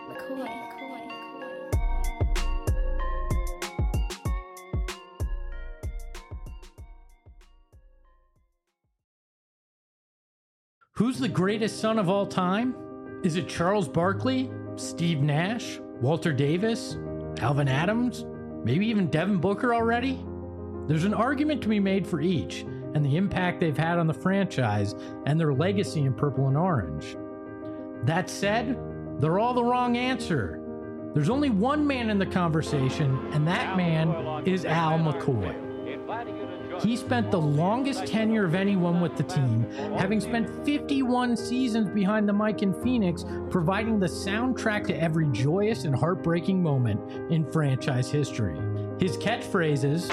Who's the greatest son of all time? Is it Charles Barkley, Steve Nash, Walter Davis, Alvin Adams, maybe even Devin Booker already? There's an argument to be made for each and the impact they've had on the franchise and their legacy in purple and orange. That said, they're all the wrong answer. There's only one man in the conversation, and that man is Al McCoy. He spent the longest tenure of anyone with the team, having spent 51 seasons behind the mic in Phoenix, providing the soundtrack to every joyous and heartbreaking moment in franchise history. His catchphrases,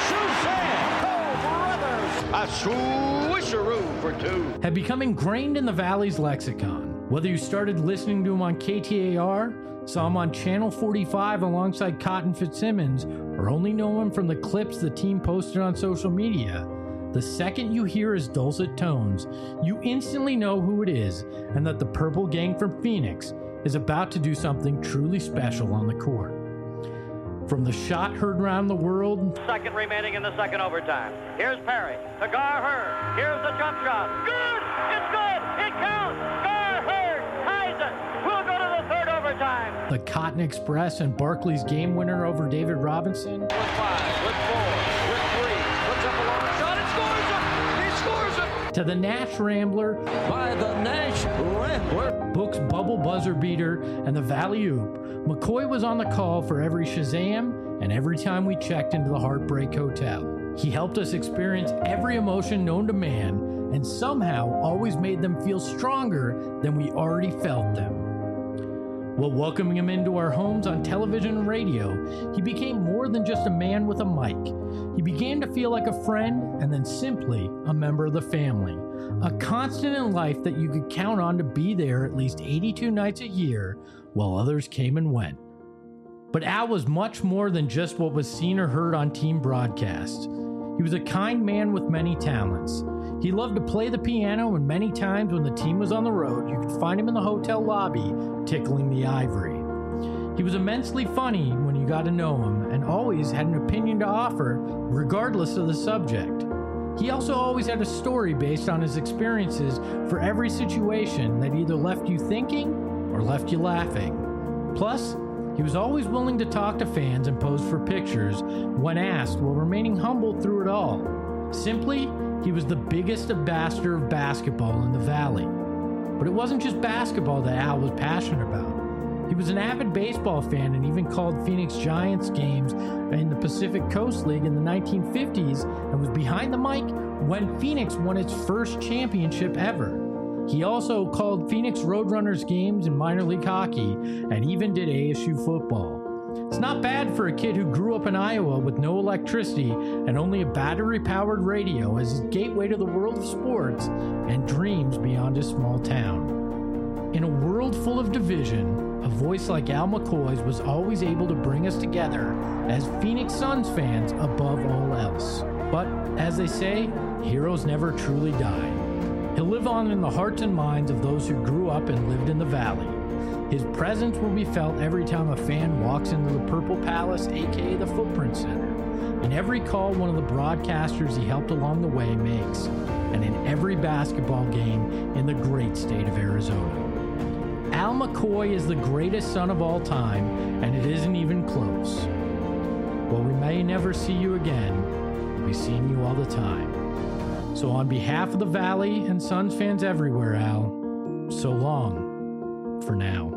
a swisheroo for two, have become ingrained in the Valley's lexicon. Whether you started listening to him on KTAR, saw him on Channel 45 alongside Cotton Fitzsimmons, or only know him from the clips the team posted on social media, the second you hear his dulcet tones, you instantly know who it is and that the Purple Gang from Phoenix is about to do something truly special on the court. From the shot heard around the world, second remaining in the second overtime. Here's Perry to Gar Hurd. Here's the jump shot. Good! It's good! It counts! Gar Hurd ties it! We'll go to the third overtime. The Cotton Express and Barkley's game winner over David Robinson. With 5, with 4, with 3, puts up a long shot and scores it! He scores it! To the Nash Rambler, by the Nash Rambler, Book's bubble buzzer beater, and the Valley Oop, McCoy was on the call for every Shazam and every time we checked into the Heartbreak Hotel. He helped us experience every emotion known to man and somehow always made them feel stronger than we already felt them. While welcoming him into our homes on television and radio, he became more than just a man with a mic. He began to feel like a friend and then simply a member of the family. A constant in life that you could count on to be there at least 82 nights a year while others came and went. But Al was much more than just what was seen or heard on team broadcasts. He was a kind man with many talents. He loved to play the piano, and many times when the team was on the road, you could find him in the hotel lobby tickling the ivory. He was immensely funny when you got to know him, and always had an opinion to offer, regardless of the subject. He also always had a story based on his experiences for every situation that either left you thinking or left you laughing. Plus, he was always willing to talk to fans and pose for pictures when asked, while remaining humble through it all. Simply, he was the biggest ambassador of basketball in the Valley. But it wasn't just basketball that Al was passionate about. He was an avid baseball fan and even called Phoenix Giants games in the Pacific Coast League in the 1950s and was behind the mic when Phoenix won its first championship ever. He also called Phoenix Roadrunners games in minor league hockey and even did ASU football. It's not bad for a kid who grew up in Iowa with no electricity and only a battery-powered radio as his gateway to the world of sports and dreams beyond his small town. In a world full of division, a voice like Al McCoy's was always able to bring us together as Phoenix Suns fans above all else. But, as they say, heroes never truly die. He'll live on in the hearts and minds of those who grew up and lived in the Valley. His presence will be felt every time a fan walks into the Purple Palace, aka the Footprint Center, in every call one of the broadcasters he helped along the way makes, and in every basketball game in the great state of Arizona. Al McCoy is the greatest son of all time, and it isn't even close. While we may never see you again, we'll be seeing you all the time. So on behalf of the Valley and Suns fans everywhere, Al, so long for now.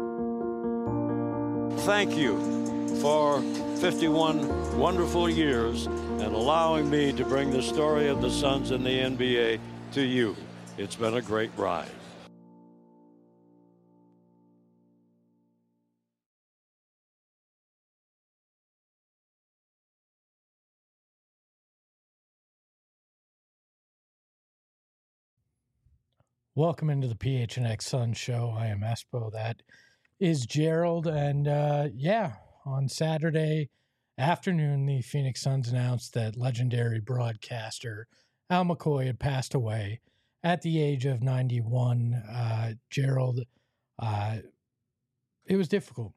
Thank you for 51 wonderful years and allowing me to bring the story of the Suns in the NBA to you. It's been a great ride. Welcome into the PHNX Sun Show. I am Espo. That is Gerald. And on Saturday afternoon, the Phoenix Suns announced that legendary broadcaster Al McCoy had passed away at the age of 91. Gerald, It was difficult.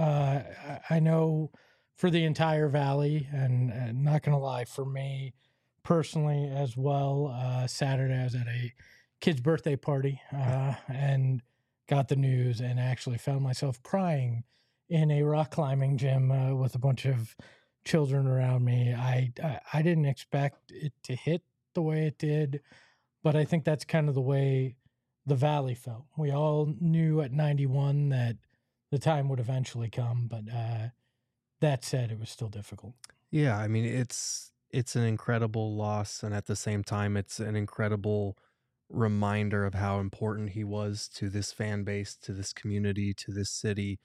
I know for the entire Valley, and not going to lie, for me personally as well, Saturday I was at a kid's birthday party and got the news and actually found myself crying in a rock climbing gym with a bunch of children around me. I didn't expect it to hit the way it did, but I think that's kind of the way the Valley felt. We all knew at 91 that the time would eventually come, but that said, it was still difficult. Yeah, I mean, it's an incredible loss, and at the same time, it's an incredible reminder of how important he was to this fan base, to this community, to this city.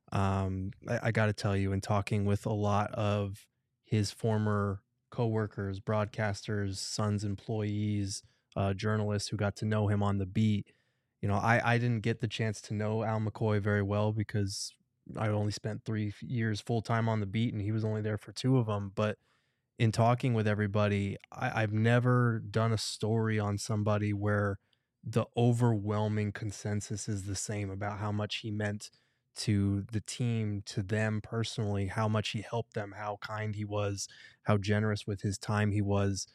I got to tell you, in talking with a lot of his former coworkers, broadcasters, Suns employees, journalists who got to know him on the beat, you know, I didn't get the chance to know Al McCoy very well because I only spent 3 years full time on the beat, and he was only there for 2 of them. But in talking with everybody, I've never done a story on somebody where the overwhelming consensus is the same about how much he meant to the team, to them personally, how much he helped them, how kind he was, how generous with his time he was.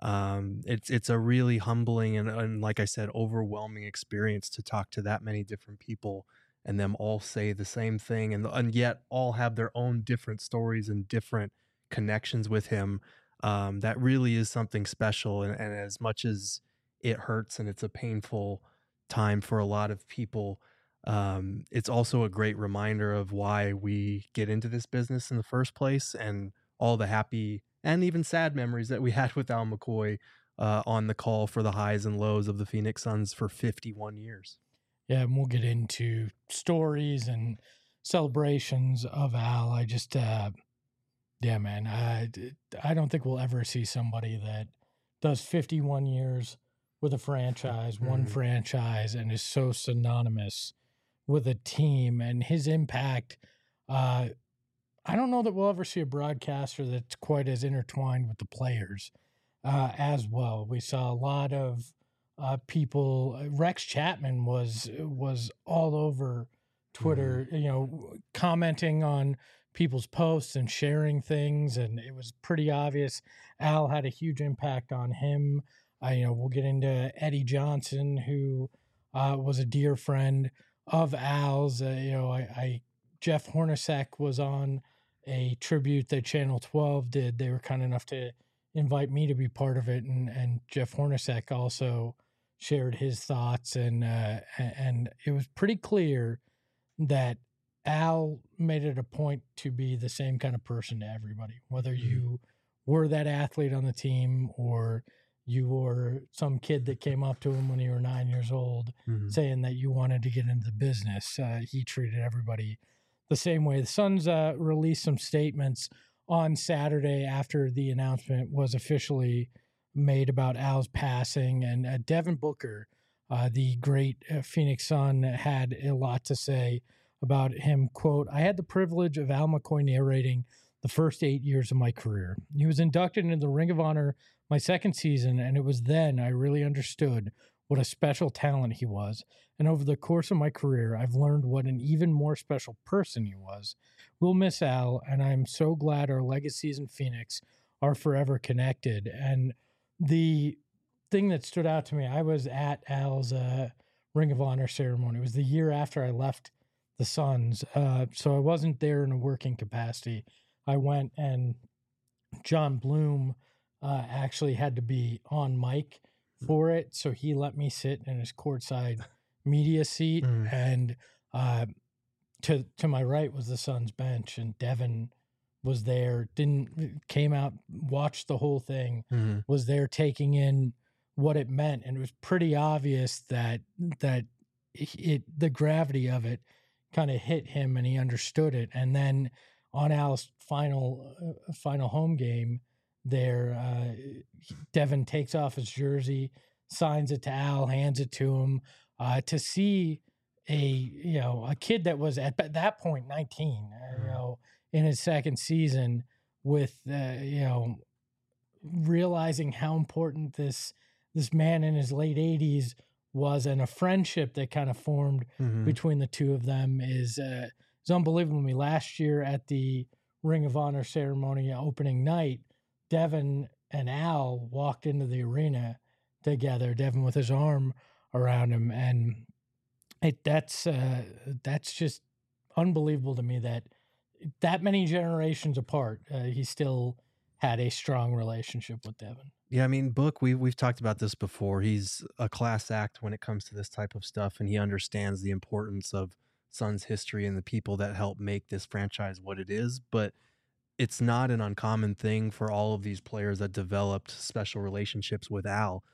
It's a really humbling and like I said, overwhelming experience to talk to that many different people and them all say the same thing, and yet all have their own different stories and different connections with him. That really is something special, and as much as it hurts and it's a painful time for a lot of people, it's also a great reminder of why we get into this business in the first place, and all the happy and even sad memories that we had with Al McCoy on the call for the highs and lows of the Phoenix Suns for 51 years. Yeah, and we'll get into stories and celebrations of Al. I just, yeah, man, I don't think we'll ever see somebody that does 51 years with a franchise, one franchise, and is so synonymous with a team and his impact. I don't know that we'll ever see a broadcaster that's quite as intertwined with the players as well. We saw a lot of people. Rex Chapman was all over Twitter, you know, commenting on people's posts and sharing things, and it was pretty obvious Al had a huge impact on him. You know, we'll get into Eddie Johnson, who was a dear friend of Al's. You know, Jeff Hornacek was on a tribute that Channel 12 did. They were kind enough to invite me to be part of it, and Jeff Hornacek also shared his thoughts, and it was pretty clear that Al made it a point to be the same kind of person to everybody, whether you were that athlete on the team or you were some kid that came up to him when you were 9 years old saying that you wanted to get into the business. He treated everybody the same way. The Suns released some statements on Saturday after the announcement was officially made about Al's passing, and Devin Booker, the great Phoenix Sun, had a lot to say about him. Quote, "I had the privilege of Al McCoy narrating the first 8 years of my career. He was inducted into the Ring of Honor my second season, and it was then I really understood what a special talent he was. And over the course of my career, I've learned what an even more special person he was. We'll miss Al, and I'm so glad our legacies in Phoenix are forever connected." And the thing that stood out to me, I was at Al's Ring of Honor ceremony. It was the year after I left the Suns, so I wasn't there in a working capacity. I went, and John Bloom actually had to be on mic for it, so he let me sit in his courtside media seat, and to my right was the Suns bench, and Devin was there, came out, watched the whole thing, was there taking in what it meant, and it was pretty obvious that the gravity of it kind of hit him, and he understood it. And then on Al's final home game there, Devin takes off his jersey, signs it to Al, hands it to him. To see a kid that was at that point 19, in his second season, with realizing how important this man in his late 80s was, and a friendship that kind of formed between the two of them is unbelievable to me. Last year at the Ring of Honor ceremony opening night, Devin and Al walked into the arena together, Devin with his arm around him, and that's just unbelievable to me that many generations apart, he still had a strong relationship with Devin. Yeah, I mean, Book, we've talked about this before. He's a class act when it comes to this type of stuff, and he understands the importance of Suns history and the people that help make this franchise what it is. But it's not an uncommon thing for all of these players that developed special relationships with Al.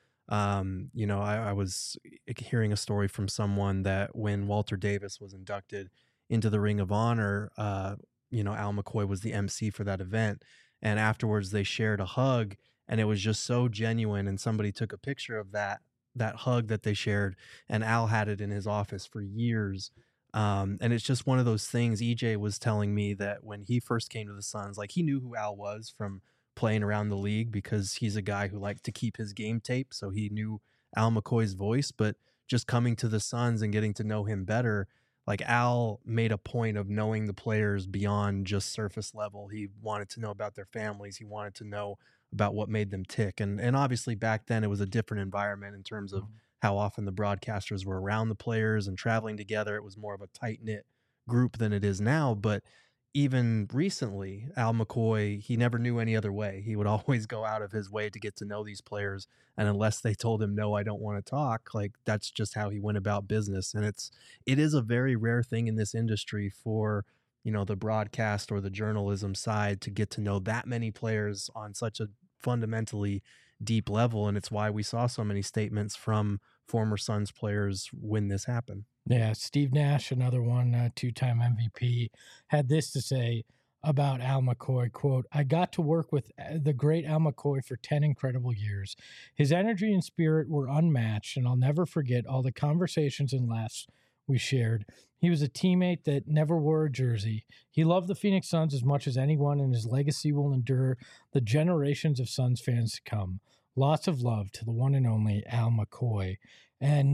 I was hearing a story from someone that when Walter Davis was inducted into the Ring of Honor, Al McCoy was the MC for that event. And afterwards they shared a hug, and it was just so genuine. And somebody took a picture of that hug that they shared, and Al had it in his office for years. And it's just one of those things. EJ was telling me that when he first came to the Suns, like, he knew who Al was from playing around the league because he's a guy who liked to keep his game tape. So he knew Al McCoy's voice, but just coming to the Suns and getting to know him better, like, Al made a point of knowing the players beyond just surface level. He wanted to know about their families. He wanted to know about what made them tick. And obviously back then it was a different environment in terms of how often the broadcasters were around the players and traveling together. It was more of a tight-knit group than it is now. But even recently, Al McCoy, he never knew any other way. He would always go out of his way to get to know these players. And unless they told him, no, I don't want to talk, like, that's just how he went about business. And it is a very rare thing in this industry for, the broadcast or the journalism side to get to know that many players on such a fundamentally deep level. And it's why we saw so many statements from former Suns players when this happened. Yeah, Steve Nash, another one, two-time MVP, had this to say about Al McCoy, quote, "I got to work with the great Al McCoy for 10 incredible years. His energy and spirit were unmatched, and I'll never forget all the conversations and laughs we shared. He was a teammate that never wore a jersey. He loved the Phoenix Suns as much as anyone, and his legacy will endure the generations of Suns fans to come. Lots of love to the one and only Al McCoy." And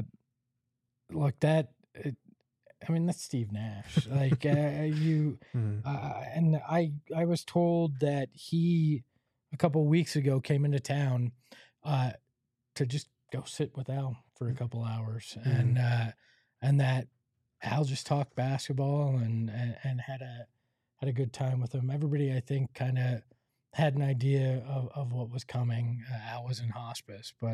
look, that's Steve Nash. Like, and I was told that he, a couple of weeks ago, came into town to just go sit with Al for a couple hours, and that Al just talked basketball and had a good time with him. Everybody, I think, kind of had an idea of what was coming. Al was in hospice, but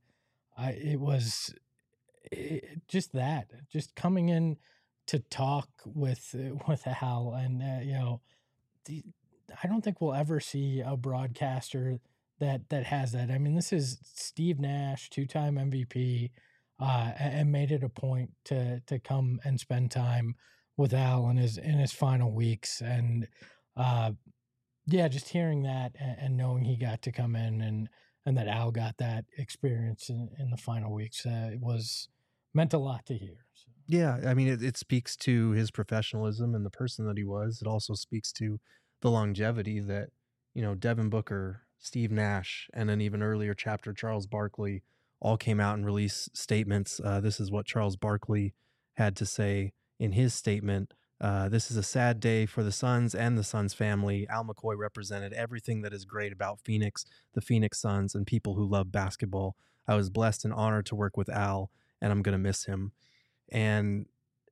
just coming in to talk with Al, and I don't think we'll ever see a broadcaster that has that. I mean, this is Steve Nash, two-time MVP, and made it a point to come and spend time with Al in his final weeks, and just hearing that and knowing he got to come in and that Al got that experience in the final weeks, it meant a lot to hear. So. Yeah, I mean, it speaks to his professionalism and the person that he was. It also speaks to the longevity that, Devin Booker, Steve Nash, and an even earlier chapter, Charles Barkley, all came out and released statements. This is what Charles Barkley had to say in his statement. "This is a sad day for the Suns and the Suns family. Al McCoy represented everything that is great about Phoenix, the Phoenix Suns, and people who love basketball. I was blessed and honored to work with Al, and I'm going to miss him." And,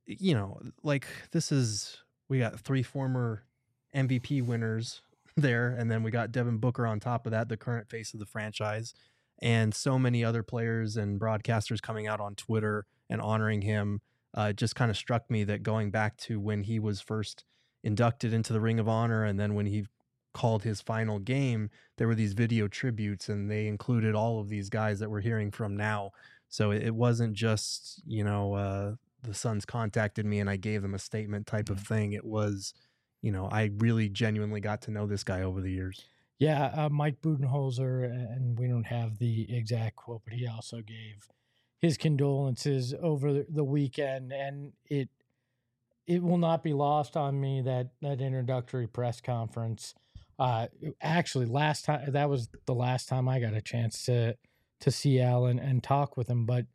we got 3 former MVP winners there, and then we got Devin Booker on top of that, the current face of the franchise, and so many other players and broadcasters coming out on Twitter and honoring him. It just kind of struck me that going back to when he was first inducted into the Ring of Honor, and then when he called his final game, there were these video tributes, and they included all of these guys that we're hearing from now. So it wasn't just, the Suns contacted me and I gave them a statement type of thing. It was, I really genuinely got to know this guy over the years. Yeah, Mike Budenholzer, and we don't have the exact quote, but he also gave his condolences over the weekend, and it will not be lost on me that introductory press conference. Actually, that was the last time I got a chance to see Al and talk with him. But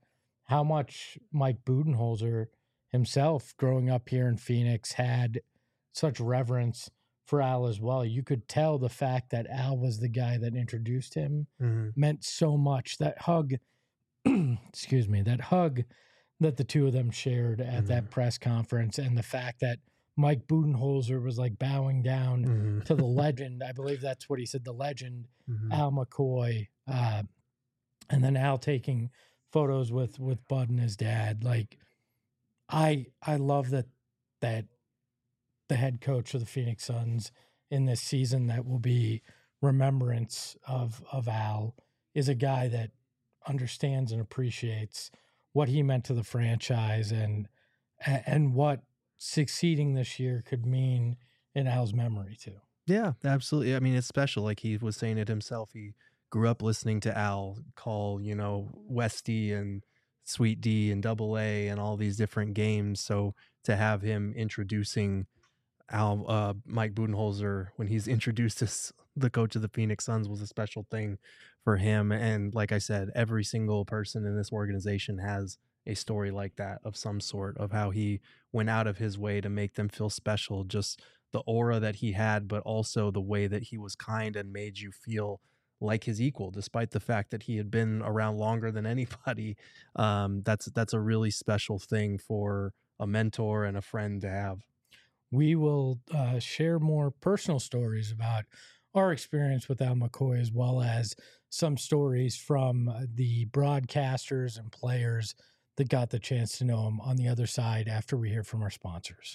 how much Mike Budenholzer himself, growing up here in Phoenix, had such reverence for Al as well. You could tell the fact that Al was the guy that introduced him meant so much. That hug, excuse me, that hug that the two of them shared at that press conference, and the fact that Mike Budenholzer was like bowing down to the legend. I believe that's what he said, the legend, Al McCoy. And then Al taking photos with Bud and his dad. Like, I love that the head coach of the Phoenix Suns in this season that will be remembrance of Al is a guy that understands and appreciates what he meant to the franchise and what succeeding this year could mean in Al's memory too. Yeah, absolutely. I mean, it's special. Like he was saying it himself. He grew up listening to Al call, Westy and Sweet D and Double A and all these different games. So to have him introducing Mike Budenholzer when he's introduced as the coach of the Phoenix Suns was a special thing for him. And like I said, every single person in this organization has a story like that of some sort, of how he went out of his way to make them feel special, just the aura that he had, but also the way that he was kind and made you feel like his equal, despite the fact that he had been around longer than anybody. That's a really special thing for a mentor and a friend to have. We will share more personal stories about our experience with Al McCoy, as well as some stories from the broadcasters and players that got the chance to know him on the other side after we hear from our sponsors.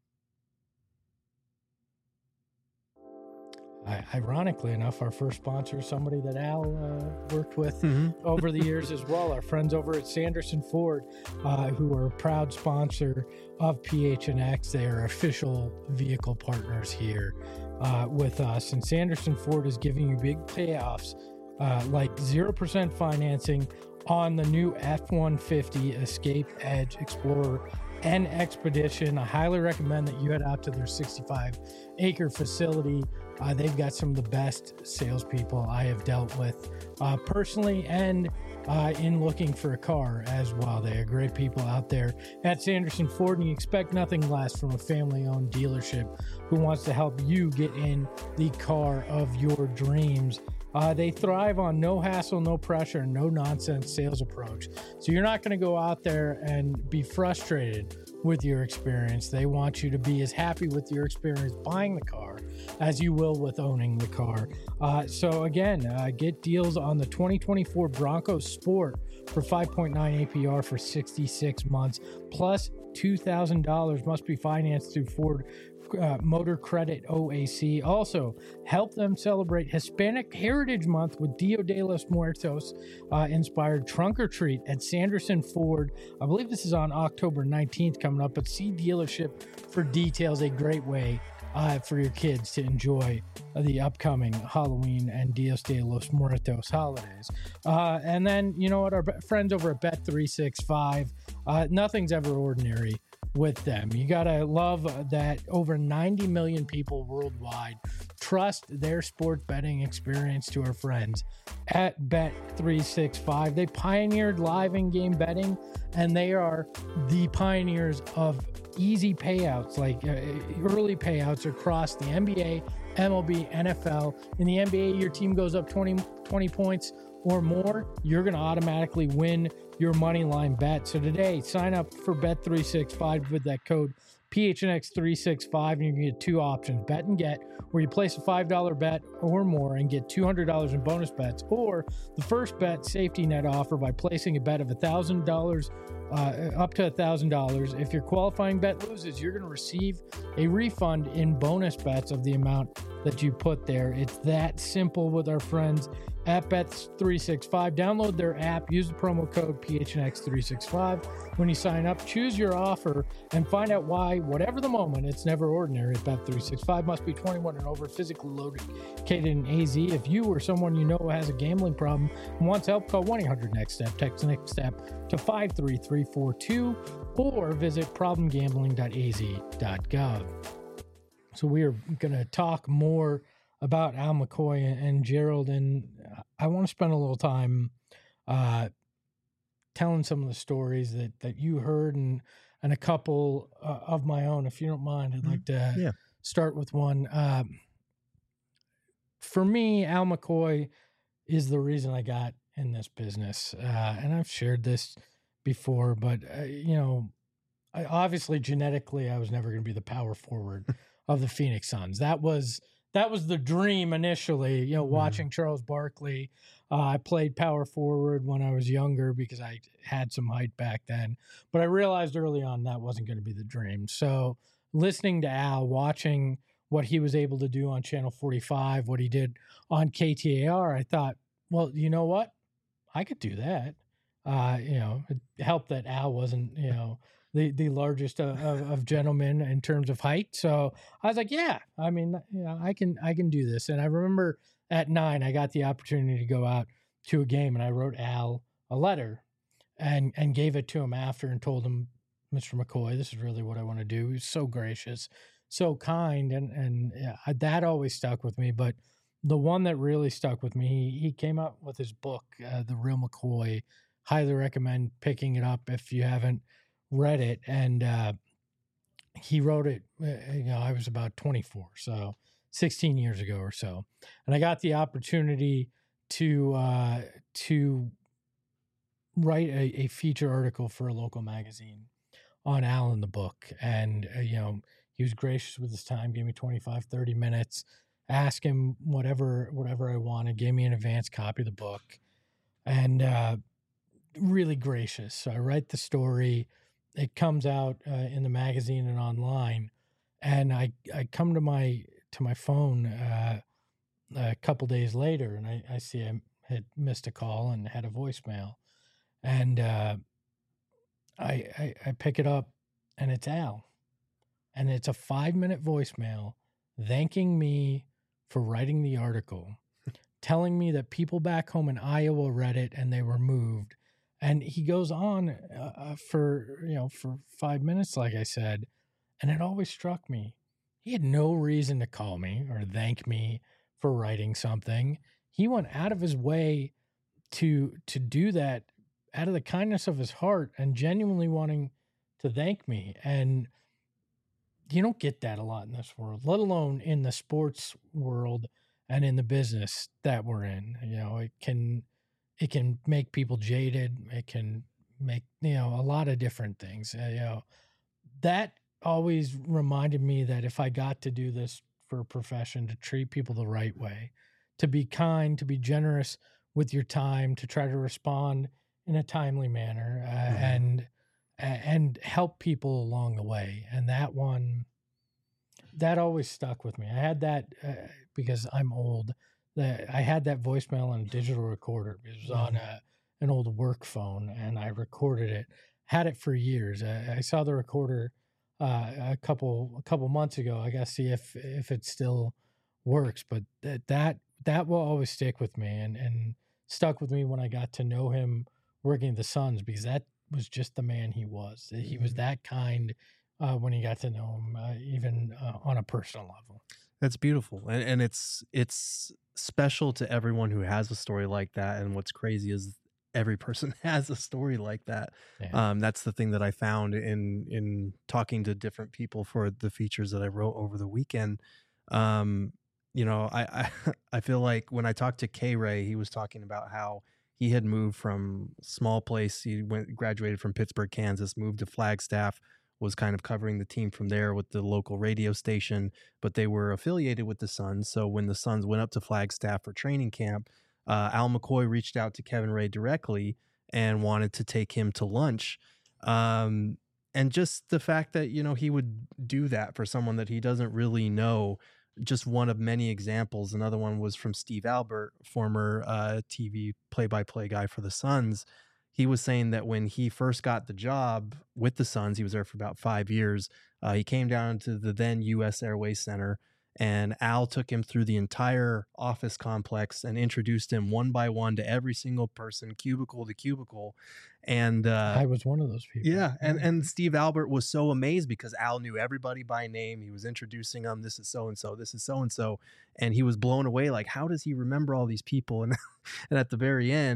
Ironically enough, our first sponsor is somebody that Al worked with over the years as well. Our friends over at Sanderson Ford, who are a proud sponsor of PHNX. They are official vehicle partners here with us. And Sanderson Ford is giving you big payoffs, like 0% financing on the new F-150 Escape, Edge, Explorer, and Expedition. I highly recommend that you head out to their 65-acre facility. They've got some of the best salespeople I have dealt with personally and in looking for a car as well. They are great people out there at Sanderson Ford, and you expect nothing less from a family-owned dealership who wants to help you get in the car of your dreams. They thrive on no hassle, no pressure, no nonsense sales approach. So you're not going to go out there and be frustrated with your experience. They want you to be as happy with your experience buying the car as you will with owning the car. So again, get deals on the 2024 Bronco Sport for 5.9 APR for 66 months, plus $2,000 must be financed through Ford Motor Credit OAC. Also, help them celebrate Hispanic Heritage Month with Dia de los Muertos inspired trunk or treat at Sanderson Ford. I believe this is on October 19th coming up, but see dealership for details. A great way for your kids to enjoy the upcoming Halloween and Dias de los Muertos holidays. And then, you know what, our friends over at Bet365, nothing's ever ordinary with them. You gotta love that over 90 million people worldwide trust their sport betting experience to our friends at Bet365. They pioneered live in-game betting, and they are the pioneers of easy payouts, like early payouts across the NBA, MLB, NFL. In the NBA, your team goes up 20 points or more, you're going to automatically win your money line bet. So today, sign up for Bet365 with that code PHNX365, and you can get two options: bet and get, where you place a $5 bet or more and get $200 in bonus bets, or the first bet safety net offer by placing a bet of $1,000 up to $1,000. If your qualifying bet loses, you're going to receive a refund in bonus bets of the amount that you put there. It's that simple with our friends at Bet365. Download their app, use the promo code PHNX365 when you sign up, choose your offer, and find out why, whatever the moment, it's never ordinary at Bet365. Must be 21 and over, physically located in AZ. If you or someone you know has a gambling problem and wants help, call 1-800-NEXT-STEP. Text NEXT STEP to 53342 or visit problemgambling.az.gov. So we are going to talk more about Al McCoy and Gerald, and I want to spend a little time telling some of the stories that you heard and a couple of my own. If you don't mind, I'd like to start with one. For me, Al McCoy is the reason I got in this business. And I've shared this before, but, obviously genetically, I was never going to be the power forward of the Phoenix Suns. That was the dream initially, watching Charles Barkley. I played power forward when I was younger because I had some height back then, but I realized early on that wasn't going to be the dream. So listening to Al, watching what he was able to do on Channel 45, what he did on KTAR, I thought, well, you know what? I could do that. It helped that Al wasn't, the largest of gentlemen in terms of height. So I was like, I can do this. And I remember at 9, I got the opportunity to go out to a game, and I wrote Al a letter and gave it to him after and told him, Mr. McCoy, this is really what I want to do. He was so gracious, so kind. And that always stuck with me. But the one that really stuck with me, he came out with his book, The Real McCoy. Highly recommend picking it up if you haven't read it. And he wrote it, I was about 24, so 16 years ago or so. And I got the opportunity to write a feature article for a local magazine on Al in the book. And, he was gracious with his time, gave me 25, 30 minutes, asked him whatever I wanted, gave me an advance copy of the book, and really gracious. So I write the story. It comes out in the magazine and online, and I come to my phone a couple days later, and I see I had missed a call and had a voicemail, and I pick it up, and it's Al, and it's a 5-minute voicemail thanking me for writing the article, telling me that people back home in Iowa read it and they were moved. And he goes on for 5 minutes, like I said, and it always struck me. He had no reason to call me or thank me for writing something. He went out of his way to do that out of the kindness of his heart and genuinely wanting to thank me. And you don't get that a lot in this world, let alone in the sports world and in the business that we're in. It can make people jaded. It can make, a lot of different things. That always reminded me that if I got to do this for a profession, to treat people the right way, to be kind, to be generous with your time, to try to respond in a timely manner, and help people along the way. And that always stuck with me. I had that because I'm old. I had that voicemail on a digital recorder. It was on an old work phone, and I recorded it. Had it for years. I saw the recorder a couple months ago. I got to see if it still works. But that will always stick with me, and stuck with me when I got to know him working at the Suns, because that was just the man he was. He was that kind when you got to know him, even on a personal level. That's beautiful, and it's special to everyone who has a story like that. And what's crazy is every person has a story like that. Yeah. That's the thing that I found in talking to different people for the features that I wrote over the weekend. I feel like when I talked to K-Ray, he was talking about how he had moved from small place. He graduated from Pittsburgh, Kansas, moved to Flagstaff, was kind of covering the team from there with the local radio station, but they were affiliated with the Suns. So when the Suns went up to Flagstaff for training camp, Al McCoy reached out to Kevin Ray directly and wanted to take him to lunch. And just the fact that, he would do that for someone that he doesn't really know, just one of many examples. Another one was from Steve Albert, former TV play-by-play guy for the Suns. He was saying that when he first got the job with the Suns, he was there for about 5 years. He came down to the then U.S. Airways Center, and Al took him through the entire office complex and introduced him one by one to every single person, cubicle to cubicle. And I was one of those people. Yeah. And Steve Albert was so amazed because Al knew everybody by name. He was introducing them. This is so-and-so. This is so-and-so. And he was blown away. Like, how does he remember all these people? And at the very end,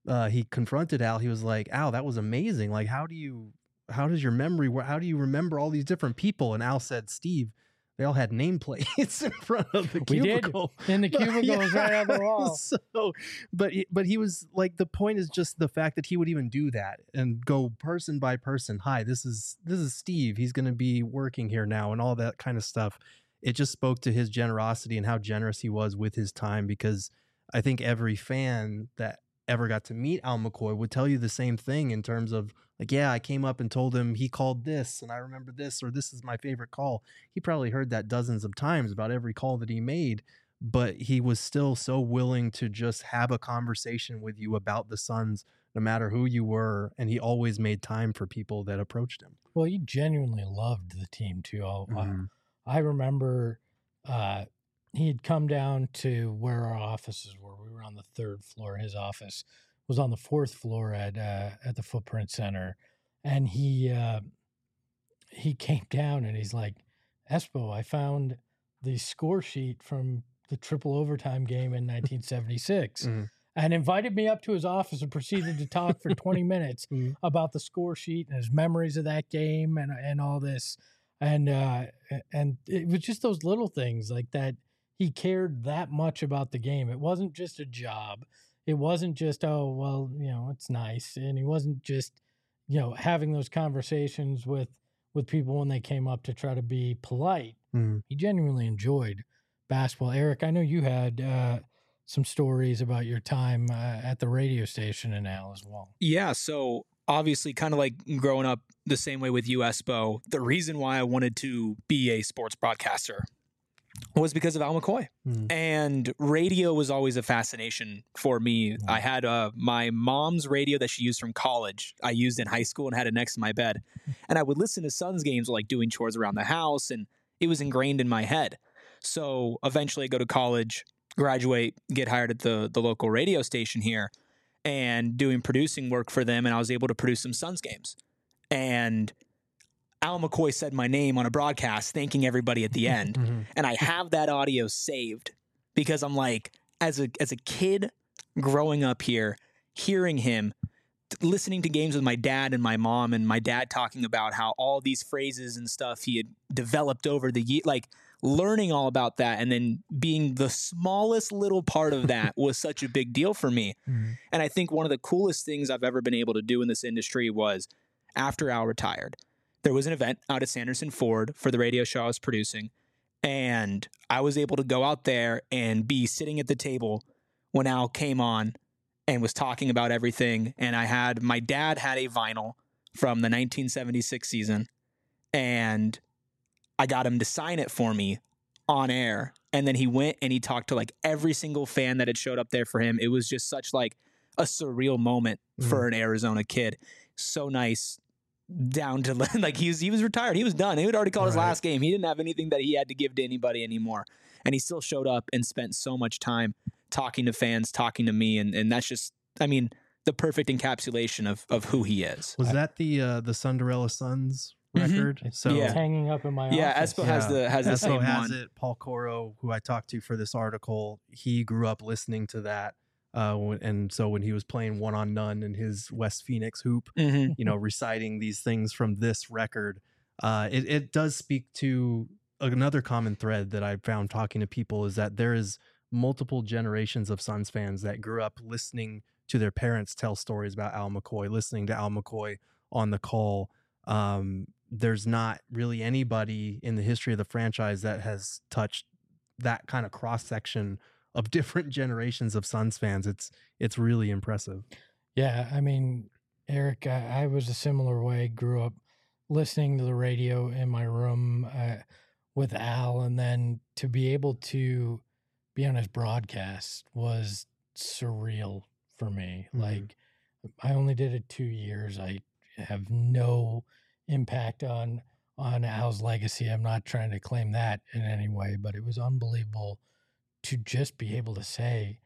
he confronted Al, he was like, Al, that was amazing. Like, how do you remember all these different people? And Al said, Steve, they all had nameplates in front of the cubicle. We did. In the cubicle was right on the wall. So, but he was like, the point is just the fact that he would even do that and go person by person. Hi, this is Steve. He's going to be working here now, and all that kind of stuff. It just spoke to his generosity and how generous he was with his time, because I think every fan that ever got to meet Al McCoy would tell you the same thing in terms of like, yeah, I came up and told him he called this and I remember this, or this is my favorite call. He probably heard that dozens of times about every call that he made, but he was still so willing to just have a conversation with you about the Suns, no matter who you were. And he always made time for people that approached him. Well, he genuinely loved the team too. I remember he had come down to where our offices were. We were on the 3rd floor. His office was on the 4th floor at the Footprint Center, and he came down and he's like, Espo, I found the score sheet from the triple overtime game in 1976, and invited me up to his office and proceeded to talk for 20 minutes about the score sheet and his memories of that game and all this, and it was just those little things like that. He cared that much about the game. It wasn't just a job. It wasn't just, oh, well, it's nice. And he wasn't just, having those conversations with people when they came up to try to be polite. He genuinely enjoyed basketball. Eric, I know you had some stories about your time at the radio station in Al as well. Yeah, so obviously kind of like growing up the same way with you, Espo, the reason why I wanted to be a sports broadcaster was because of Al McCoy. And radio was always a fascination for me. I had my mom's radio that she used from college. I used in high school and had it next to my bed. And I would listen to Suns games like doing chores around the house, and it was ingrained in my head. So eventually I go to college, graduate, get hired at the local radio station here and doing producing work for them. And I was able to produce some Suns games. And Al McCoy said my name on a broadcast, thanking everybody at the end. And I have that audio saved because I'm like, as a kid growing up here, hearing him, listening to games with my dad and my mom, and my dad talking about how all these phrases and stuff he had developed over the year, like learning all about that, and then being the smallest little part of that was such a big deal for me. And I think one of the coolest things I've ever been able to do in this industry was after Al retired, there was an event out at Sanderson Ford for the radio show I was producing, and I was able to go out there and be sitting at the table when Al came on and was talking about everything. And my dad had a vinyl from the 1976 season, and I got him to sign it for me on air. And then he went and he talked to like every single fan that had showed up there for him. It was just such like a surreal moment for an Arizona kid. So nice. Down to like he was retired. He was done. He had already called his last game. He didn't have anything that he had to give to anybody anymore. And he still showed up and spent so much time talking to fans, talking to me. And that's just, I mean, the perfect encapsulation of who he is. Was that the Cinderella Suns record? So it's hanging up in my office. Yeah, Espo has the same has one. It. Paul Coro, who I talked to for this article, he grew up listening to that. And so when he was playing One on None in his West Phoenix hoop, reciting these things from this record, it does speak to another common thread that I found talking to people, is that there is multiple generations of Suns fans that grew up listening to their parents tell stories about Al McCoy, listening to Al McCoy on the call. There's not really anybody in the history of the franchise that has touched that kind of cross section of different generations of Suns fans. It's really impressive. Yeah, I mean, Eric, I was a similar way. Grew up listening to the radio in my room with Al, and then to be able to be on his broadcast was surreal for me. Like, I only did it 2 years. I have no impact on Al's legacy. I'm not trying to claim that in any way, but it was unbelievable to just be able to say,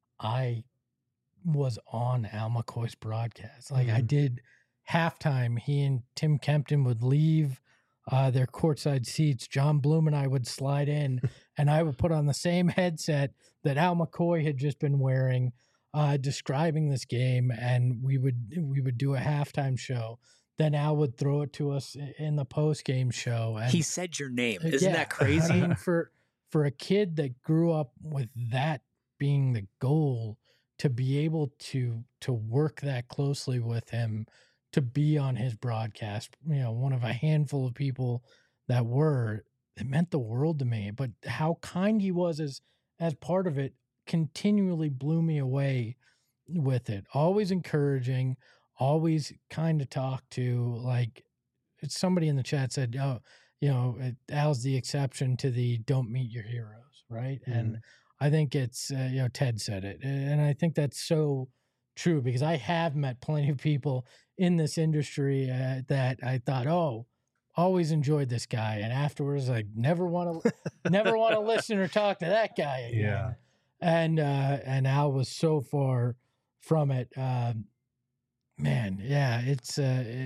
I was on Al McCoy's broadcast. Like I did halftime. He and Tim Kempton would leave their courtside seats. John Bloom and I would slide in, and I would put on the same headset that Al McCoy had just been wearing. describing this game, and we would do a halftime show. Then Al would throw it to us in the post game show. And he said your name. Isn't that crazy? I mean, for a kid that grew up with that being the goal, to be able to work that closely with him, to be on his broadcast, one of a handful of people that it meant the world to me. But how kind he was as part of it continually blew me away with it. Always encouraging, always kind to talk to. Like somebody in the chat said, oh, Al's the exception to the don't meet your heroes, right? Mm. And I think it's, Ted said it. And I think that's so true, because I have met plenty of people in this industry that I thought, oh, always enjoyed this guy. And afterwards, I never want to listen or talk to that guy again. Yeah. And Al was so far from it. Man, yeah, it's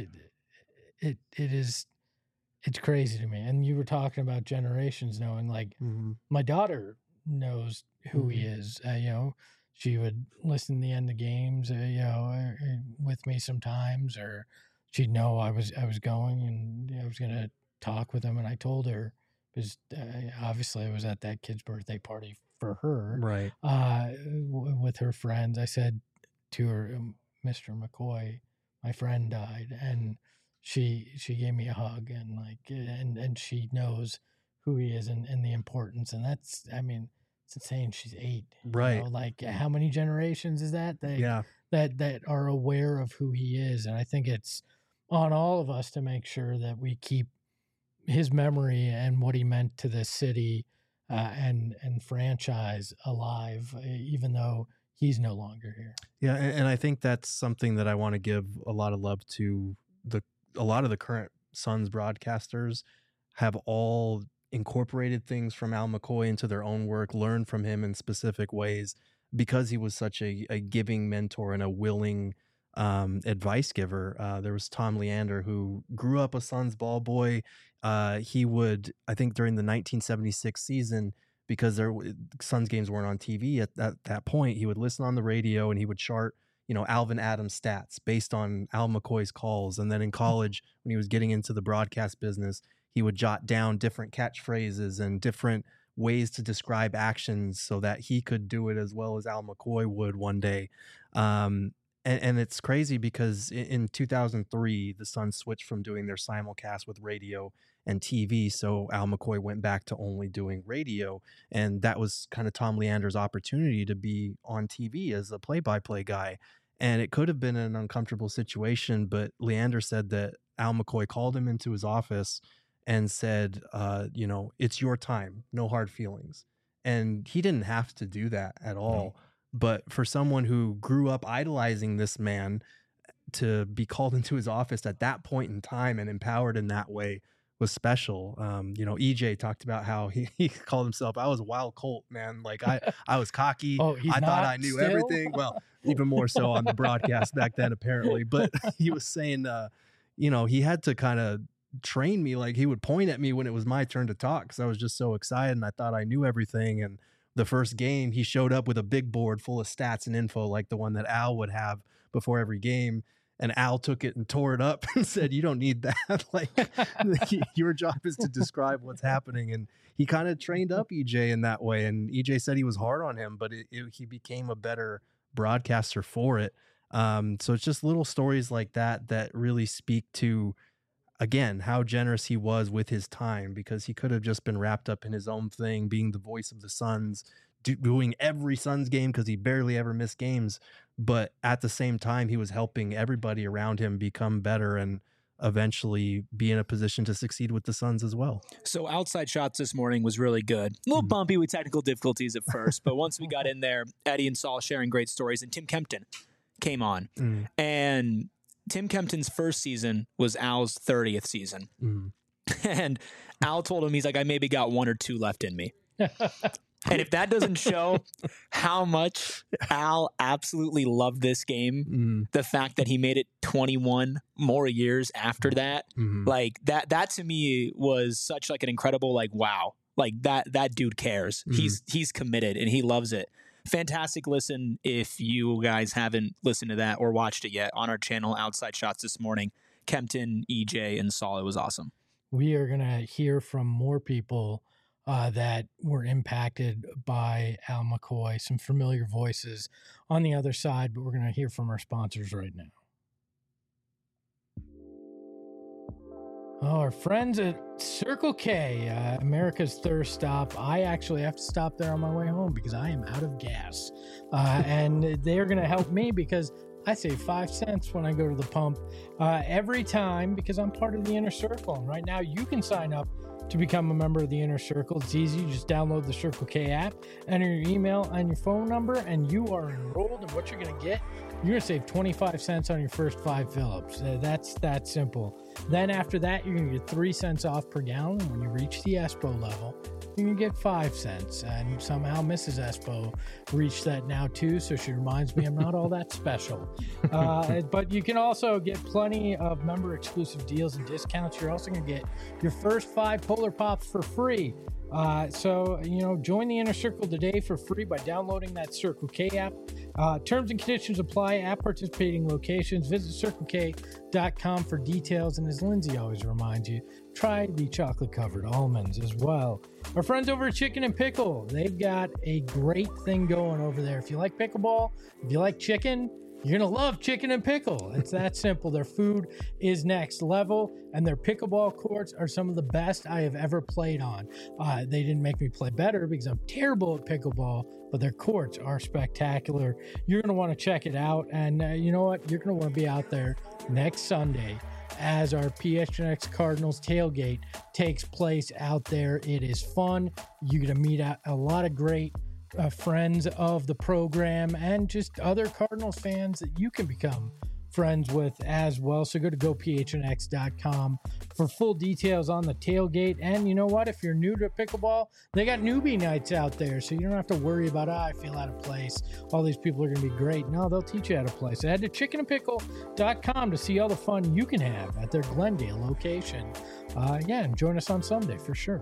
crazy to me. And you were talking about generations knowing, like my daughter knows who he is. She would listen to the end of games, with me sometimes, or she'd know I was going and I was going to talk with him. And I told her, because obviously I was at that kid's birthday party for her, right? With her friends. I said to her, Mr. McCoy, my friend died, and she gave me a hug, and and she knows who he is and the importance. And that's, I mean, it's insane. She's 8, right? How many generations is that? That are aware of who he is. And I think it's on all of us to make sure that we keep his memory and what he meant to the city and franchise alive, even though he's no longer here. Yeah, and I think that's something that I want to give a lot of love to. A lot of the current Suns broadcasters have all incorporated things from Al McCoy into their own work, learned from him in specific ways, because he was such a giving mentor and a willing advice giver. There was Tom Leander, who grew up a Suns ball boy. He would, I think during the 1976 season, because Suns games weren't on TV at that point, he would listen on the radio and he would chart, Alvin Adams stats based on Al McCoy's calls. And then in college, when he was getting into the broadcast business, he would jot down different catchphrases and different ways to describe actions so that he could do it as well as Al McCoy would one day. And it's crazy because in 2003, the Suns switched from doing their simulcast with radio and TV. So Al McCoy went back to only doing radio. And that was kind of Tom Leander's opportunity to be on TV as a play-by-play guy. And it could have been an uncomfortable situation, but Leander said that Al McCoy called him into his office and said, it's your time, no hard feelings. And he didn't have to do that at all. But for someone who grew up idolizing this man, to be called into his office at that point in time and empowered in that way was special. EJ talked about how he called himself, I was a wild Colt, man. Like I was cocky. I thought I knew everything. Well, even more so on the broadcast back then, apparently. But he was saying, he had to kind of train me. Like he would point at me when it was my turn to talk, because I was just so excited and I thought I knew everything. And the first game, he showed up with a big board full of stats and info, like the one that Al would have before every game. And Al took it and tore it up and said, you don't need that. Like your job is to describe what's happening. And he kind of trained up EJ in that way. And EJ said he was hard on him, but he became a better broadcaster for it. So it's just little stories like that really speak to, again, how generous he was with his time, because he could have just been wrapped up in his own thing, being the voice of the Suns, doing every Suns game because he barely ever missed games. But at the same time, he was helping everybody around him become better and eventually be in a position to succeed with the Suns as well. So Outside Shots this morning was really good. A little bumpy with technical difficulties at first, but once we got in there, Eddie and Saul sharing great stories, and Tim Kempton came on. And Tim Kempton's first season was Al's 30th season. And Al told him, he's like, I maybe got 1 or 2 left in me. And if that doesn't show how much Al absolutely loved this game, the fact that he made it 21 more years after that, like that to me was such like an incredible, like, wow, like that dude cares. He's committed and he loves it. fantastic listen if you guys haven't listened to that or watched it yet on our channel, Outside Shots This Morning. Kempton, EJ, and Saul, it was awesome. We are going to hear from more people that were impacted by Al McCoy, some familiar voices on the other side, but we're going to hear from our sponsors right now. Oh, our friends at Circle K, America's thirst stop. I actually have to stop there on my way home because I am out of gas. And they're going to help me because I save 5 cents when I go to the pump every time because I'm part of the Inner Circle. And right now you can sign up to become a member of the Inner Circle. It's easy. You just download the Circle K app, enter your email and your phone number, and you are enrolled. And what you're going to get, you're going to save 25 cents on your first 5 fill-ups. That's that simple. Then after that, you're going to get 3 cents off per gallon. When you reach the ESPO level, you're going to get 5 cents. And somehow Mrs. ESPO reached that now too, so she reminds me I'm not all that special. But you can also get plenty of member-exclusive deals and discounts. You're also going to get your first 5 Polar Pops for free. So, join the Inner Circle today for free by downloading that Circle K app. Terms and conditions apply at participating locations. Visit CircleK.com for details. And as Lindsay always reminds you, try the chocolate-covered almonds as well. Our friends over at Chicken and Pickle, they've got a great thing going over there. If you like pickleball, if you like chicken, you're going to love Chicken and Pickle. It's that simple. Their food is next level, and their pickleball courts are some of the best I have ever played on. They didn't make me play better because I'm terrible at pickleball, but their courts are spectacular. You're going to want to check it out, and you know what? You're going to want to be out there next Sunday as our PHNX Cardinals tailgate takes place out there. It is fun. You're going to meet a lot of great friends of the program and just other Cardinals fans that you can become friends with as well. So go to gophnx.com for full details on the tailgate. And you know what? If you're new to pickleball, they got newbie nights out there. So you don't have to worry about, I feel out of place. All these people are going to be great. No, they'll teach you how to play. So head to chickenandpickle.com to see all the fun you can have at their Glendale location. And join us on Sunday for sure.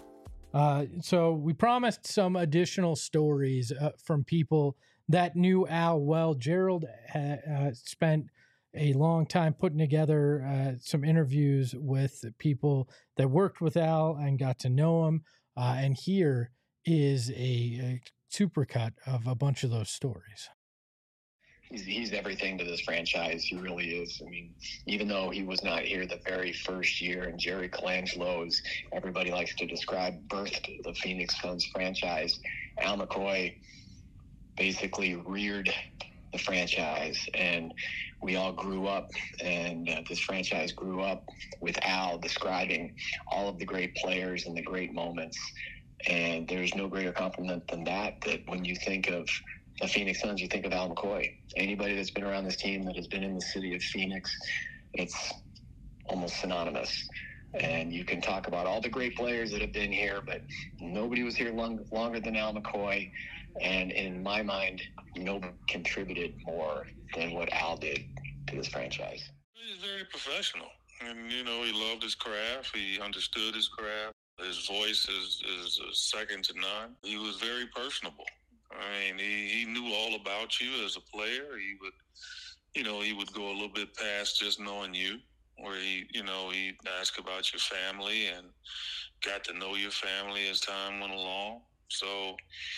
So we promised some additional stories from people that knew Al well. Gerald spent a long time putting together some interviews with people that worked with Al and got to know him. And here is a supercut of a bunch of those stories. He's everything to this franchise. He really is. I mean, even though he was not here the very first year, and Jerry Colangelo, as everybody likes to describe, birthed the Phoenix Suns franchise, Al McCoy basically reared the franchise, and we all grew up, and this franchise grew up with Al describing all of the great players and the great moments. And there's no greater compliment than that when you think of the Phoenix Suns, you think of Al McCoy. Anybody that's been around this team that has been in the city of Phoenix, it's almost synonymous. And you can talk about all the great players that have been here, but nobody was here longer than Al McCoy. And in my mind, nobody contributed more than what Al did to this franchise. He's very professional. And, he loved his craft. He understood his craft. His voice is second to none. He was very personable. I mean, he knew all about you as a player. He would go a little bit past just knowing you, where he'd ask about your family and got to know your family as time went along. So,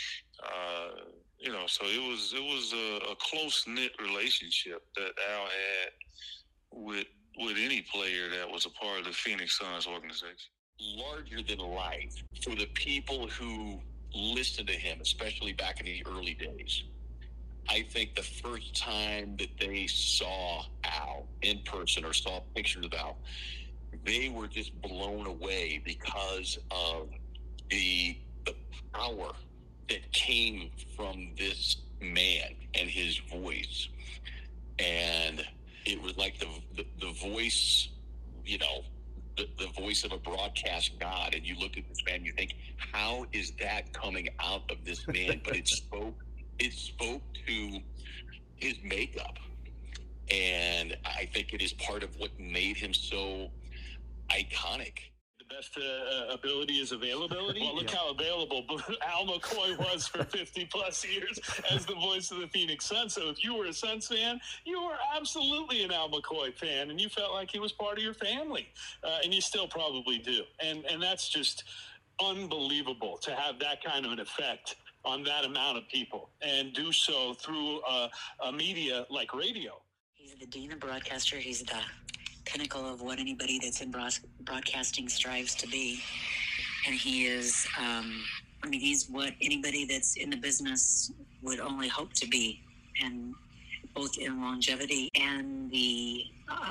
so it was a close-knit relationship that Al had with any player that was a part of the Phoenix Suns organization. Larger than life for the people who listened to him, especially back in the early days. I think the first time that they saw Al in person or saw pictures of Al, they were just blown away because of the power that came from this man and his voice. And it was like the voice, the voice of a broadcast god. And you look at this man, you think, how is that coming out of this man? But it spoke to his makeup. And I think it is part of what made him so iconic. The best ability is availability. Well, look how available Al McCoy was for 50 plus years as the voice of the Phoenix Suns. So if you were a Suns fan, you were absolutely an Al McCoy fan, and you felt like he was part of your family, and you still probably do. And that's just unbelievable to have that kind of an effect on that amount of people and do so through a media like radio. He's the dean of broadcaster. He's the pinnacle of what anybody that's in broadcasting strives to be. And he is, he's what anybody that's in the business would only hope to be. And both in longevity and the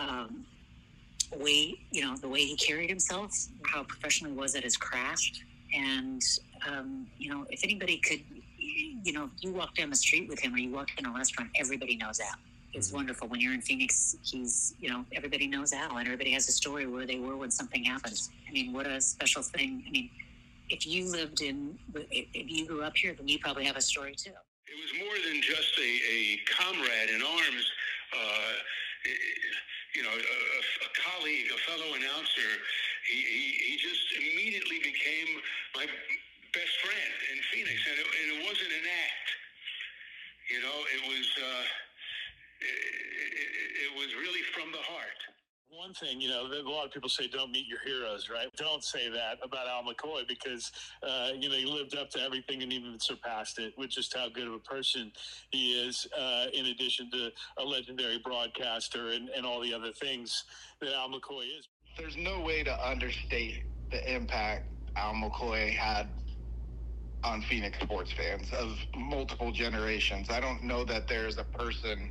way, the way he carried himself, how professional he was at his craft. And, if anybody could, you walk down the street with him or you walk in a restaurant, everybody knows Al. It's wonderful. When you're in Phoenix, he's, everybody knows Al, and everybody has a story where they were when something happens. I mean, what a special thing. I mean, if you grew up here, then you probably have a story too. It was more than just a comrade in arms, a colleague, a fellow announcer. He just immediately became my best friend in Phoenix, and it wasn't an act. It was really from the heart. One thing, a lot of people say don't meet your heroes, right? Don't say that about Al McCoy because, he lived up to everything and even surpassed it with just how good of a person he is, in addition to a legendary broadcaster and all the other things that Al McCoy is. There's no way to understate the impact Al McCoy had on Phoenix sports fans of multiple generations. I don't know that there's a person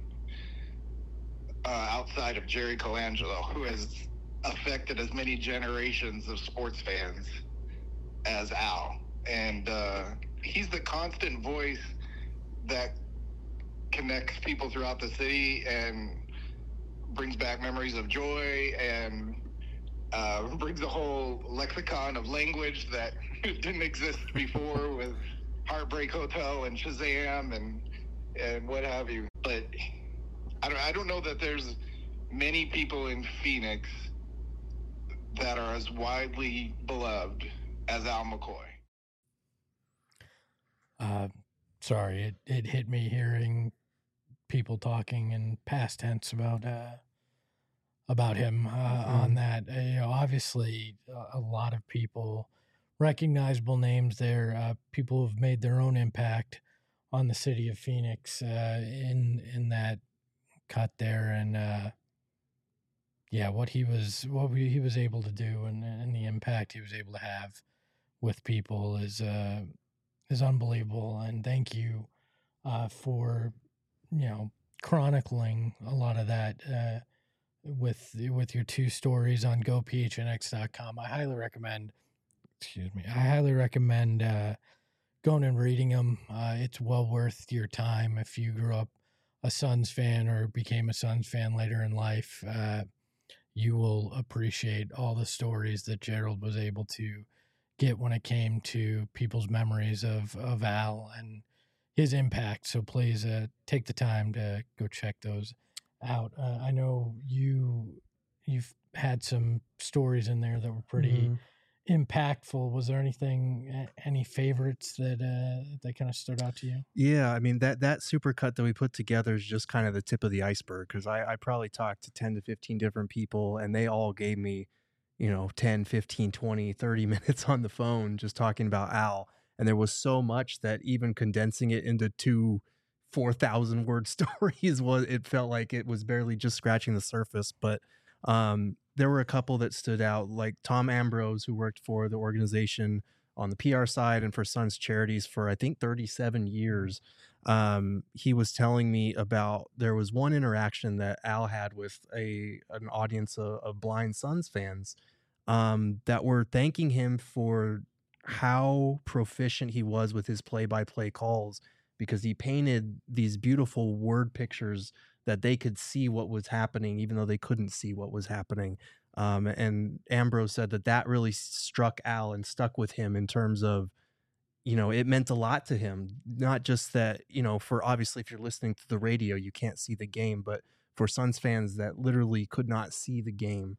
outside of Jerry Colangelo who has affected as many generations of sports fans as Al. And he's the constant voice that connects people throughout the city and brings back memories of joy and brings a whole lexicon of language that didn't exist before with Heartbreak Hotel and Shazam and what have you. But I don't know that there's many people in Phoenix that are as widely beloved as Al McCoy. Sorry, it hit me hearing people talking in past tense about him on that. Obviously, a lot of people, recognizable names there, people who've made their own impact on the city of Phoenix in that cut there, and what he was able to do and the impact he was able to have with people is unbelievable. And thank you for chronicling a lot of that with your two stories on gophnx.com. I highly recommend going and reading them. It's well worth your time if you grew up a Suns fan or became a Suns fan later in life. You will appreciate all the stories that Gerald was able to get when it came to people's memories of Al and his impact. So please take the time to go check those out. I know you've had some stories in there that were pretty impactful. Was there any favorites that kind of stood out to you? Yeah, I mean, that supercut that we put together is just kind of the tip of the iceberg, because I probably talked to 10 to 15 different people, and they all gave me 10, 15, 20, 30 minutes on the phone just talking about Al. And there was so much that even condensing it into 2 4,000 word stories it felt like it was barely just scratching the surface. But there were a couple that stood out, like Tom Ambrose, who worked for the organization on the PR side and for Suns Charities for, I think, 37 years. He was telling me about, there was one interaction that Al had with an audience of blind Suns fans that were thanking him for how proficient he was with his play-by-play calls, because he painted these beautiful word pictures that they could see what was happening, even though they couldn't see what was happening. And Ambrose said that really struck Al and stuck with him in terms of, it meant a lot to him. Not just that, for obviously if you're listening to the radio, you can't see the game, but for Suns fans that literally could not see the game,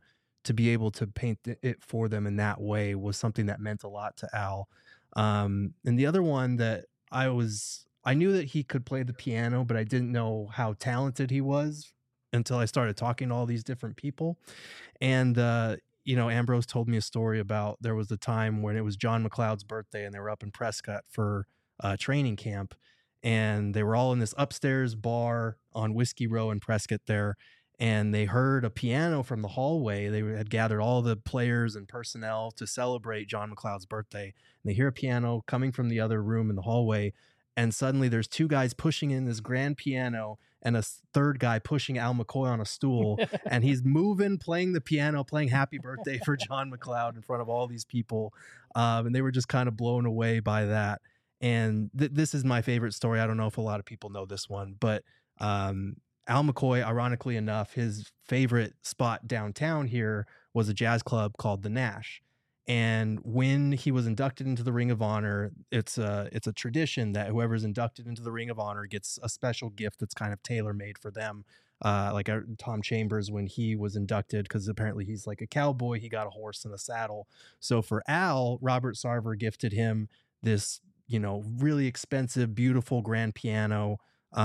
to be able to paint it for them in that way was something that meant a lot to Al. And the other one that I knew that he could play the piano, but I didn't know how talented he was until I started talking to all these different people. And, Ambrose told me a story about there was a time when it was John McLeod's birthday and they were up in Prescott for training camp. And they were all in this upstairs bar on Whiskey Row in Prescott there. And they heard a piano from the hallway. They had gathered all the players and personnel to celebrate John McLeod's birthday. And they hear a piano coming from the other room in the hallway. And suddenly there's two guys pushing in this grand piano and a third guy pushing Al McCoy on a stool. And he's moving, playing the piano, playing Happy Birthday for John McLeod in front of all these people. And they were just kind of blown away by that. And this is my favorite story. I don't know if a lot of people know this one, but Al McCoy, ironically enough, his favorite spot downtown here was a jazz club called the Nash. And when he was inducted into the Ring of Honor, it's a tradition that whoever's inducted into the Ring of Honor gets a special gift that's kind of tailor-made for them. Like Tom Chambers, when he was inducted, because apparently he's like a cowboy, he got a horse and a saddle. So for Al, Robert Sarver gifted him this, really expensive, beautiful grand piano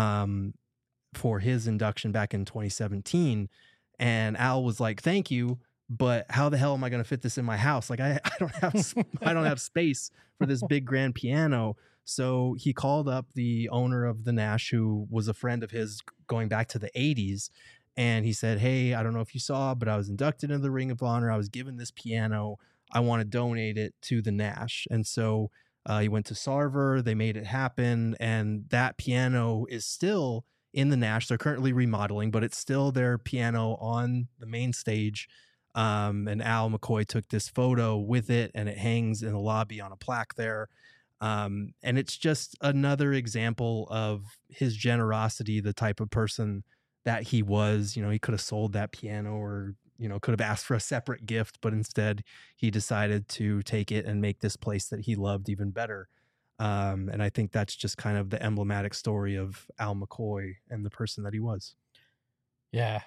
for his induction back in 2017. And Al was like, thank you, but how the hell am I going to fit this in my house? Like I don't have space for this big grand piano. So he called up the owner of the Nash, who was a friend of his going back to the 80s. And he said, hey, I don't know if you saw, but I was inducted into the Ring of Honor. I was given this piano. I want to donate it to the Nash. And so he went to Sarver. They made it happen. And that piano is still in the Nash. They're currently remodeling, but it's still their piano on the main stage. And Al McCoy took this photo with it, and it hangs in the lobby on a plaque there. And it's just another example of his generosity, the type of person that he was. He could have sold that piano or, could have asked for a separate gift, but instead he decided to take it and make this place that he loved even better. And I think that's just kind of the emblematic story of Al McCoy and the person that he was. Yeah.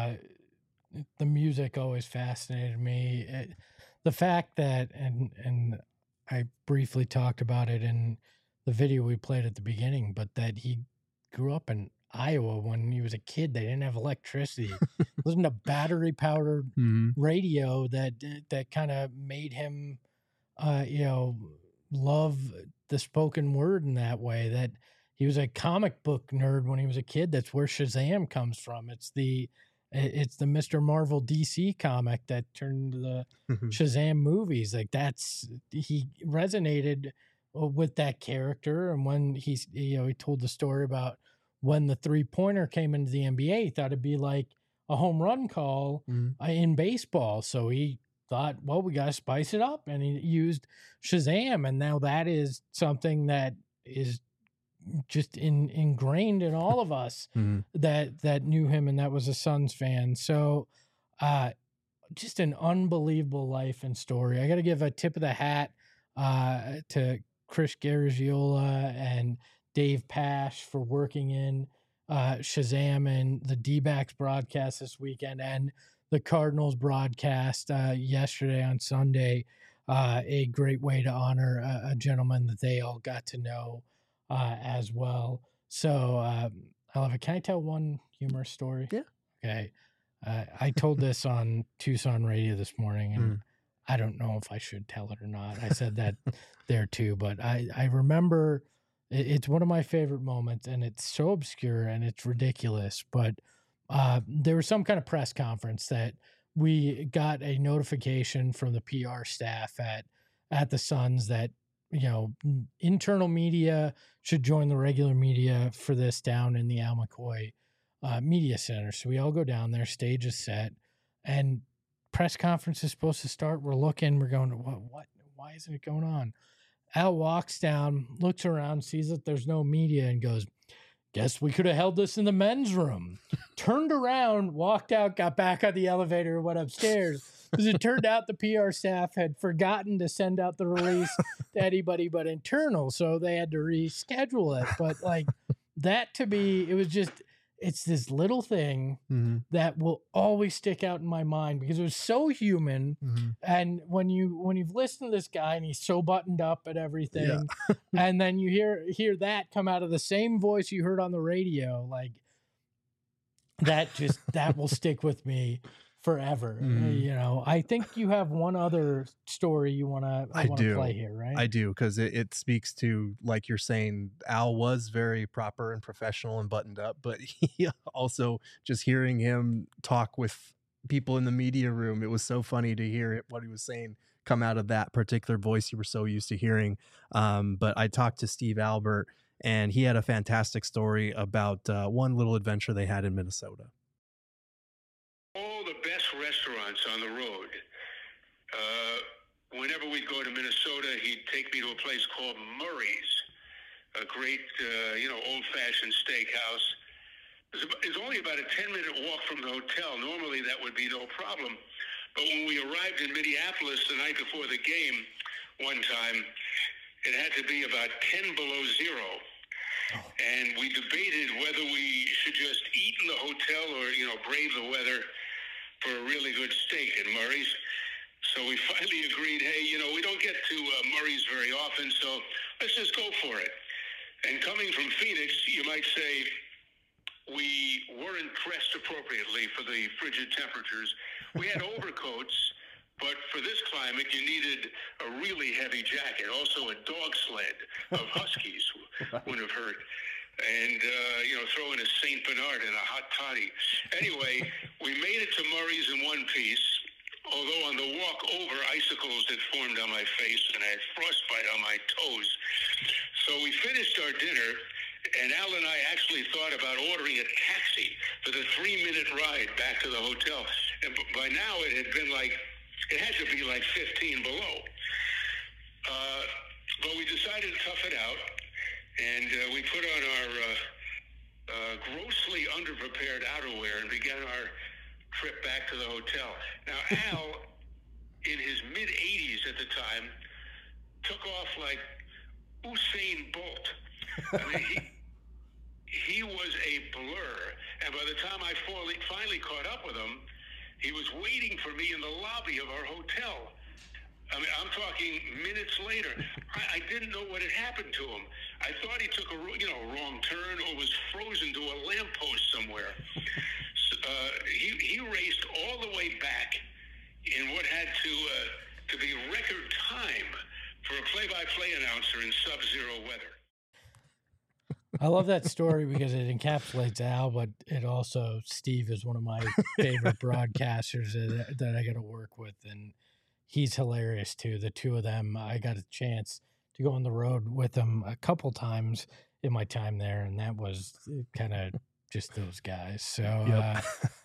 The music always fascinated me. The fact that, and I briefly talked about it in the video we played at the beginning, but that he grew up in Iowa when he was a kid. They didn't have electricity. Listened to battery powered radio that kind of made him, love the spoken word in that way. That he was a comic book nerd when he was a kid. That's where Shazam comes from. It's the Mr. Marvel DC comic that turned into the Shazam movies. Like he resonated with that character. And when he told the story about when the 3-pointer came into the NBA, he thought it'd be like a home run call in baseball. So he thought, well, we got to spice it up. And he used Shazam. And now that is something that is just ingrained in all of us that knew him, and that was a Suns fan. So just an unbelievable life and story. I got to give a tip of the hat to Chris Garagiola and Dave Pash for working in Shazam and the D-backs broadcast this weekend and the Cardinals broadcast yesterday on Sunday. A great way to honor a gentleman that they all got to know as well. So, Oliver, can I tell one humorous story? Yeah. Okay. I told this on Tucson radio this morning, and I don't know if I should tell it or not. I said that there too, but I remember it's one of my favorite moments, and it's so obscure and it's ridiculous. But there was some kind of press conference that we got a notification from the PR staff at the Suns that, internal media should join the regular media for this down in the Al McCoy Media Center. So we all go down there, stage is set, and press conference is supposed to start. We're looking, we're going, what? Why isn't it going on? Al walks down, looks around, sees that there's no media, and goes, guess we could have held this in the men's room. Turned around, walked out, got back on the elevator, went upstairs. Because it turned out the PR staff had forgotten to send out the release to anybody but internal, so they had to reschedule it. But like that, to me, it was just it's this little thing that will always stick out in my mind because it was so human. And when you've listened to this guy and he's so buttoned up at everything, and then you hear that come out of the same voice you heard on the radio, like that will stick with me forever. You know, I think you have one other story you want to play here, right? I do, because it speaks to, like you're saying, Al was very proper and professional and buttoned up, but he also, just hearing him talk with people in the media room, it was so funny to hear what he was saying come out of that particular voice you were so used to hearing. But I talked to Steve Albert, and he had a fantastic story about one little adventure they had in Minnesota. All the best restaurants on the road. Whenever we'd go to Minnesota, he'd take me to a place called Murray's, a great, old-fashioned steakhouse. It's only about a 10-minute walk from the hotel. Normally, that would be no problem. But when we arrived in Minneapolis the night before the game one time, it had to be about 10 below zero. And we debated whether we should just eat in the hotel or, brave the weather for a really good steak at Murray's. So we finally agreed, hey, we don't get to Murray's very often, so let's just go for it. And coming from Phoenix, you might say we weren't dressed appropriately for the frigid temperatures. We had overcoats, but for this climate, you needed a really heavy jacket. Also a dog sled of Huskies wouldn't have hurt. And, throw in a St. Bernard and a hot toddy. Anyway, we made it to Murray's in one piece, although on the walk over, icicles had formed on my face and I had frostbite on my toes. So we finished our dinner, and Al and I actually thought about ordering a taxi for the 3-minute ride back to the hotel. And by now it had to be like 15 below. But we decided to tough it out, and we put on our grossly underprepared outerwear and began our trip back to the hotel. Now, Al, in his mid-80s at the time, took off like Usain Bolt. I mean, he was a blur. And by the time I finally caught up with him, he was waiting for me in the lobby of our hotel. I mean, I'm talking minutes later. I didn't know what had happened to him. I thought he took a wrong turn or was frozen to a lamppost somewhere. He raced all the way back in what had to be record time for a play-by-play announcer in sub-zero weather. I love that story because it encapsulates Al, but it also, Steve is one of my favorite broadcasters that I got to work with, and he's hilarious too. The two of them, I got a chance to go on the road with them a couple times in my time there, and that was kind of just those guys. So,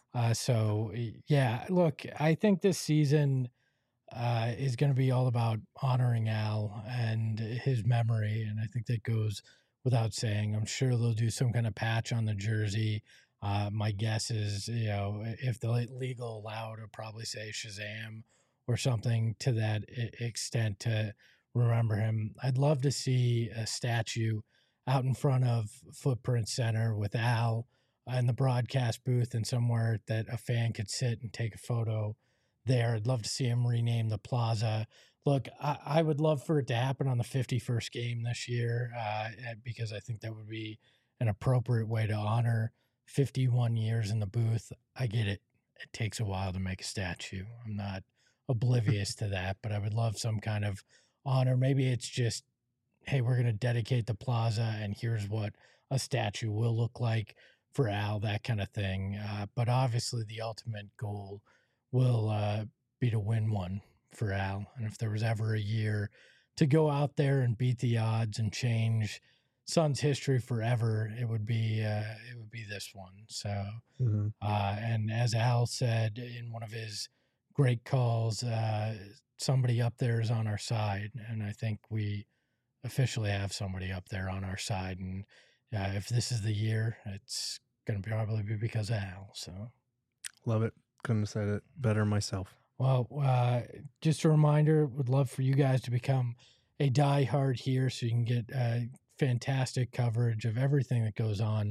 look, I think this season is going to be all about honoring Al and his memory, and I think that goes without saying. I'm sure they'll do some kind of patch on the jersey. My guess is, if the league will allow, to probably say Shazam or something to that extent to remember him. I'd love to see a statue out in front of Footprint Center with Al in the broadcast booth and somewhere that a fan could sit and take a photo there. I'd love to see him rename the plaza. Look, I would love for it to happen on the 51st game this year because I think that would be an appropriate way to honor 51 years in the booth. I get it. It takes a while to make a statue. I'm not oblivious to that, but I would love some kind of honor. Maybe it's just, hey, we're going to dedicate the plaza and here's what a statue will look like for Al, that kind of thing. But obviously the ultimate goal will be to win one for Al. And if there was ever a year to go out there and beat the odds and change Suns history forever, it would be this one. So, and as Al said in one of his great calls, somebody up there is on our side, and I think we officially have somebody up there on our side. And if this is the year, it's going to probably be because of Al. So, love it. Couldn't have said it better myself. Well, just a reminder, would love for you guys to become a diehard here so you can get fantastic coverage of everything that goes on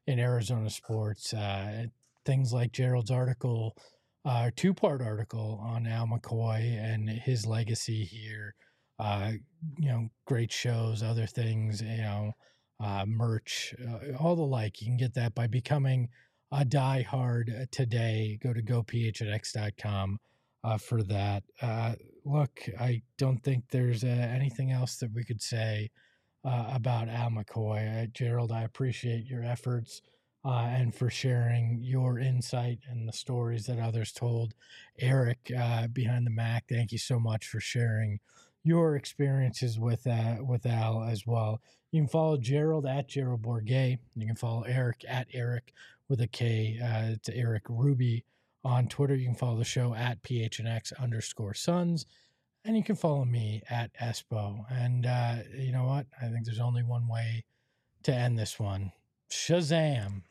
in Arizona sports. Things like Gerald's article, two-part article on Al McCoy and his legacy here. Great shows, other things, merch, all the like. You can get that by becoming a diehard today. Go to gophnx.com for that. Look, I don't think there's anything else that we could say about Al McCoy. Gerald, I appreciate your efforts and for sharing your insight and the stories that others told. Eric, behind the Mac, thank you so much for sharing your experiences with Al as well. You can follow Gerald at Gerald Bourguet. You can follow Eric at Eric with a K. It's Eric Ruby on Twitter. You can follow the show at PHNX_Suns. And you can follow me at Espo. And you know what? I think there's only one way to end this one. Shazam.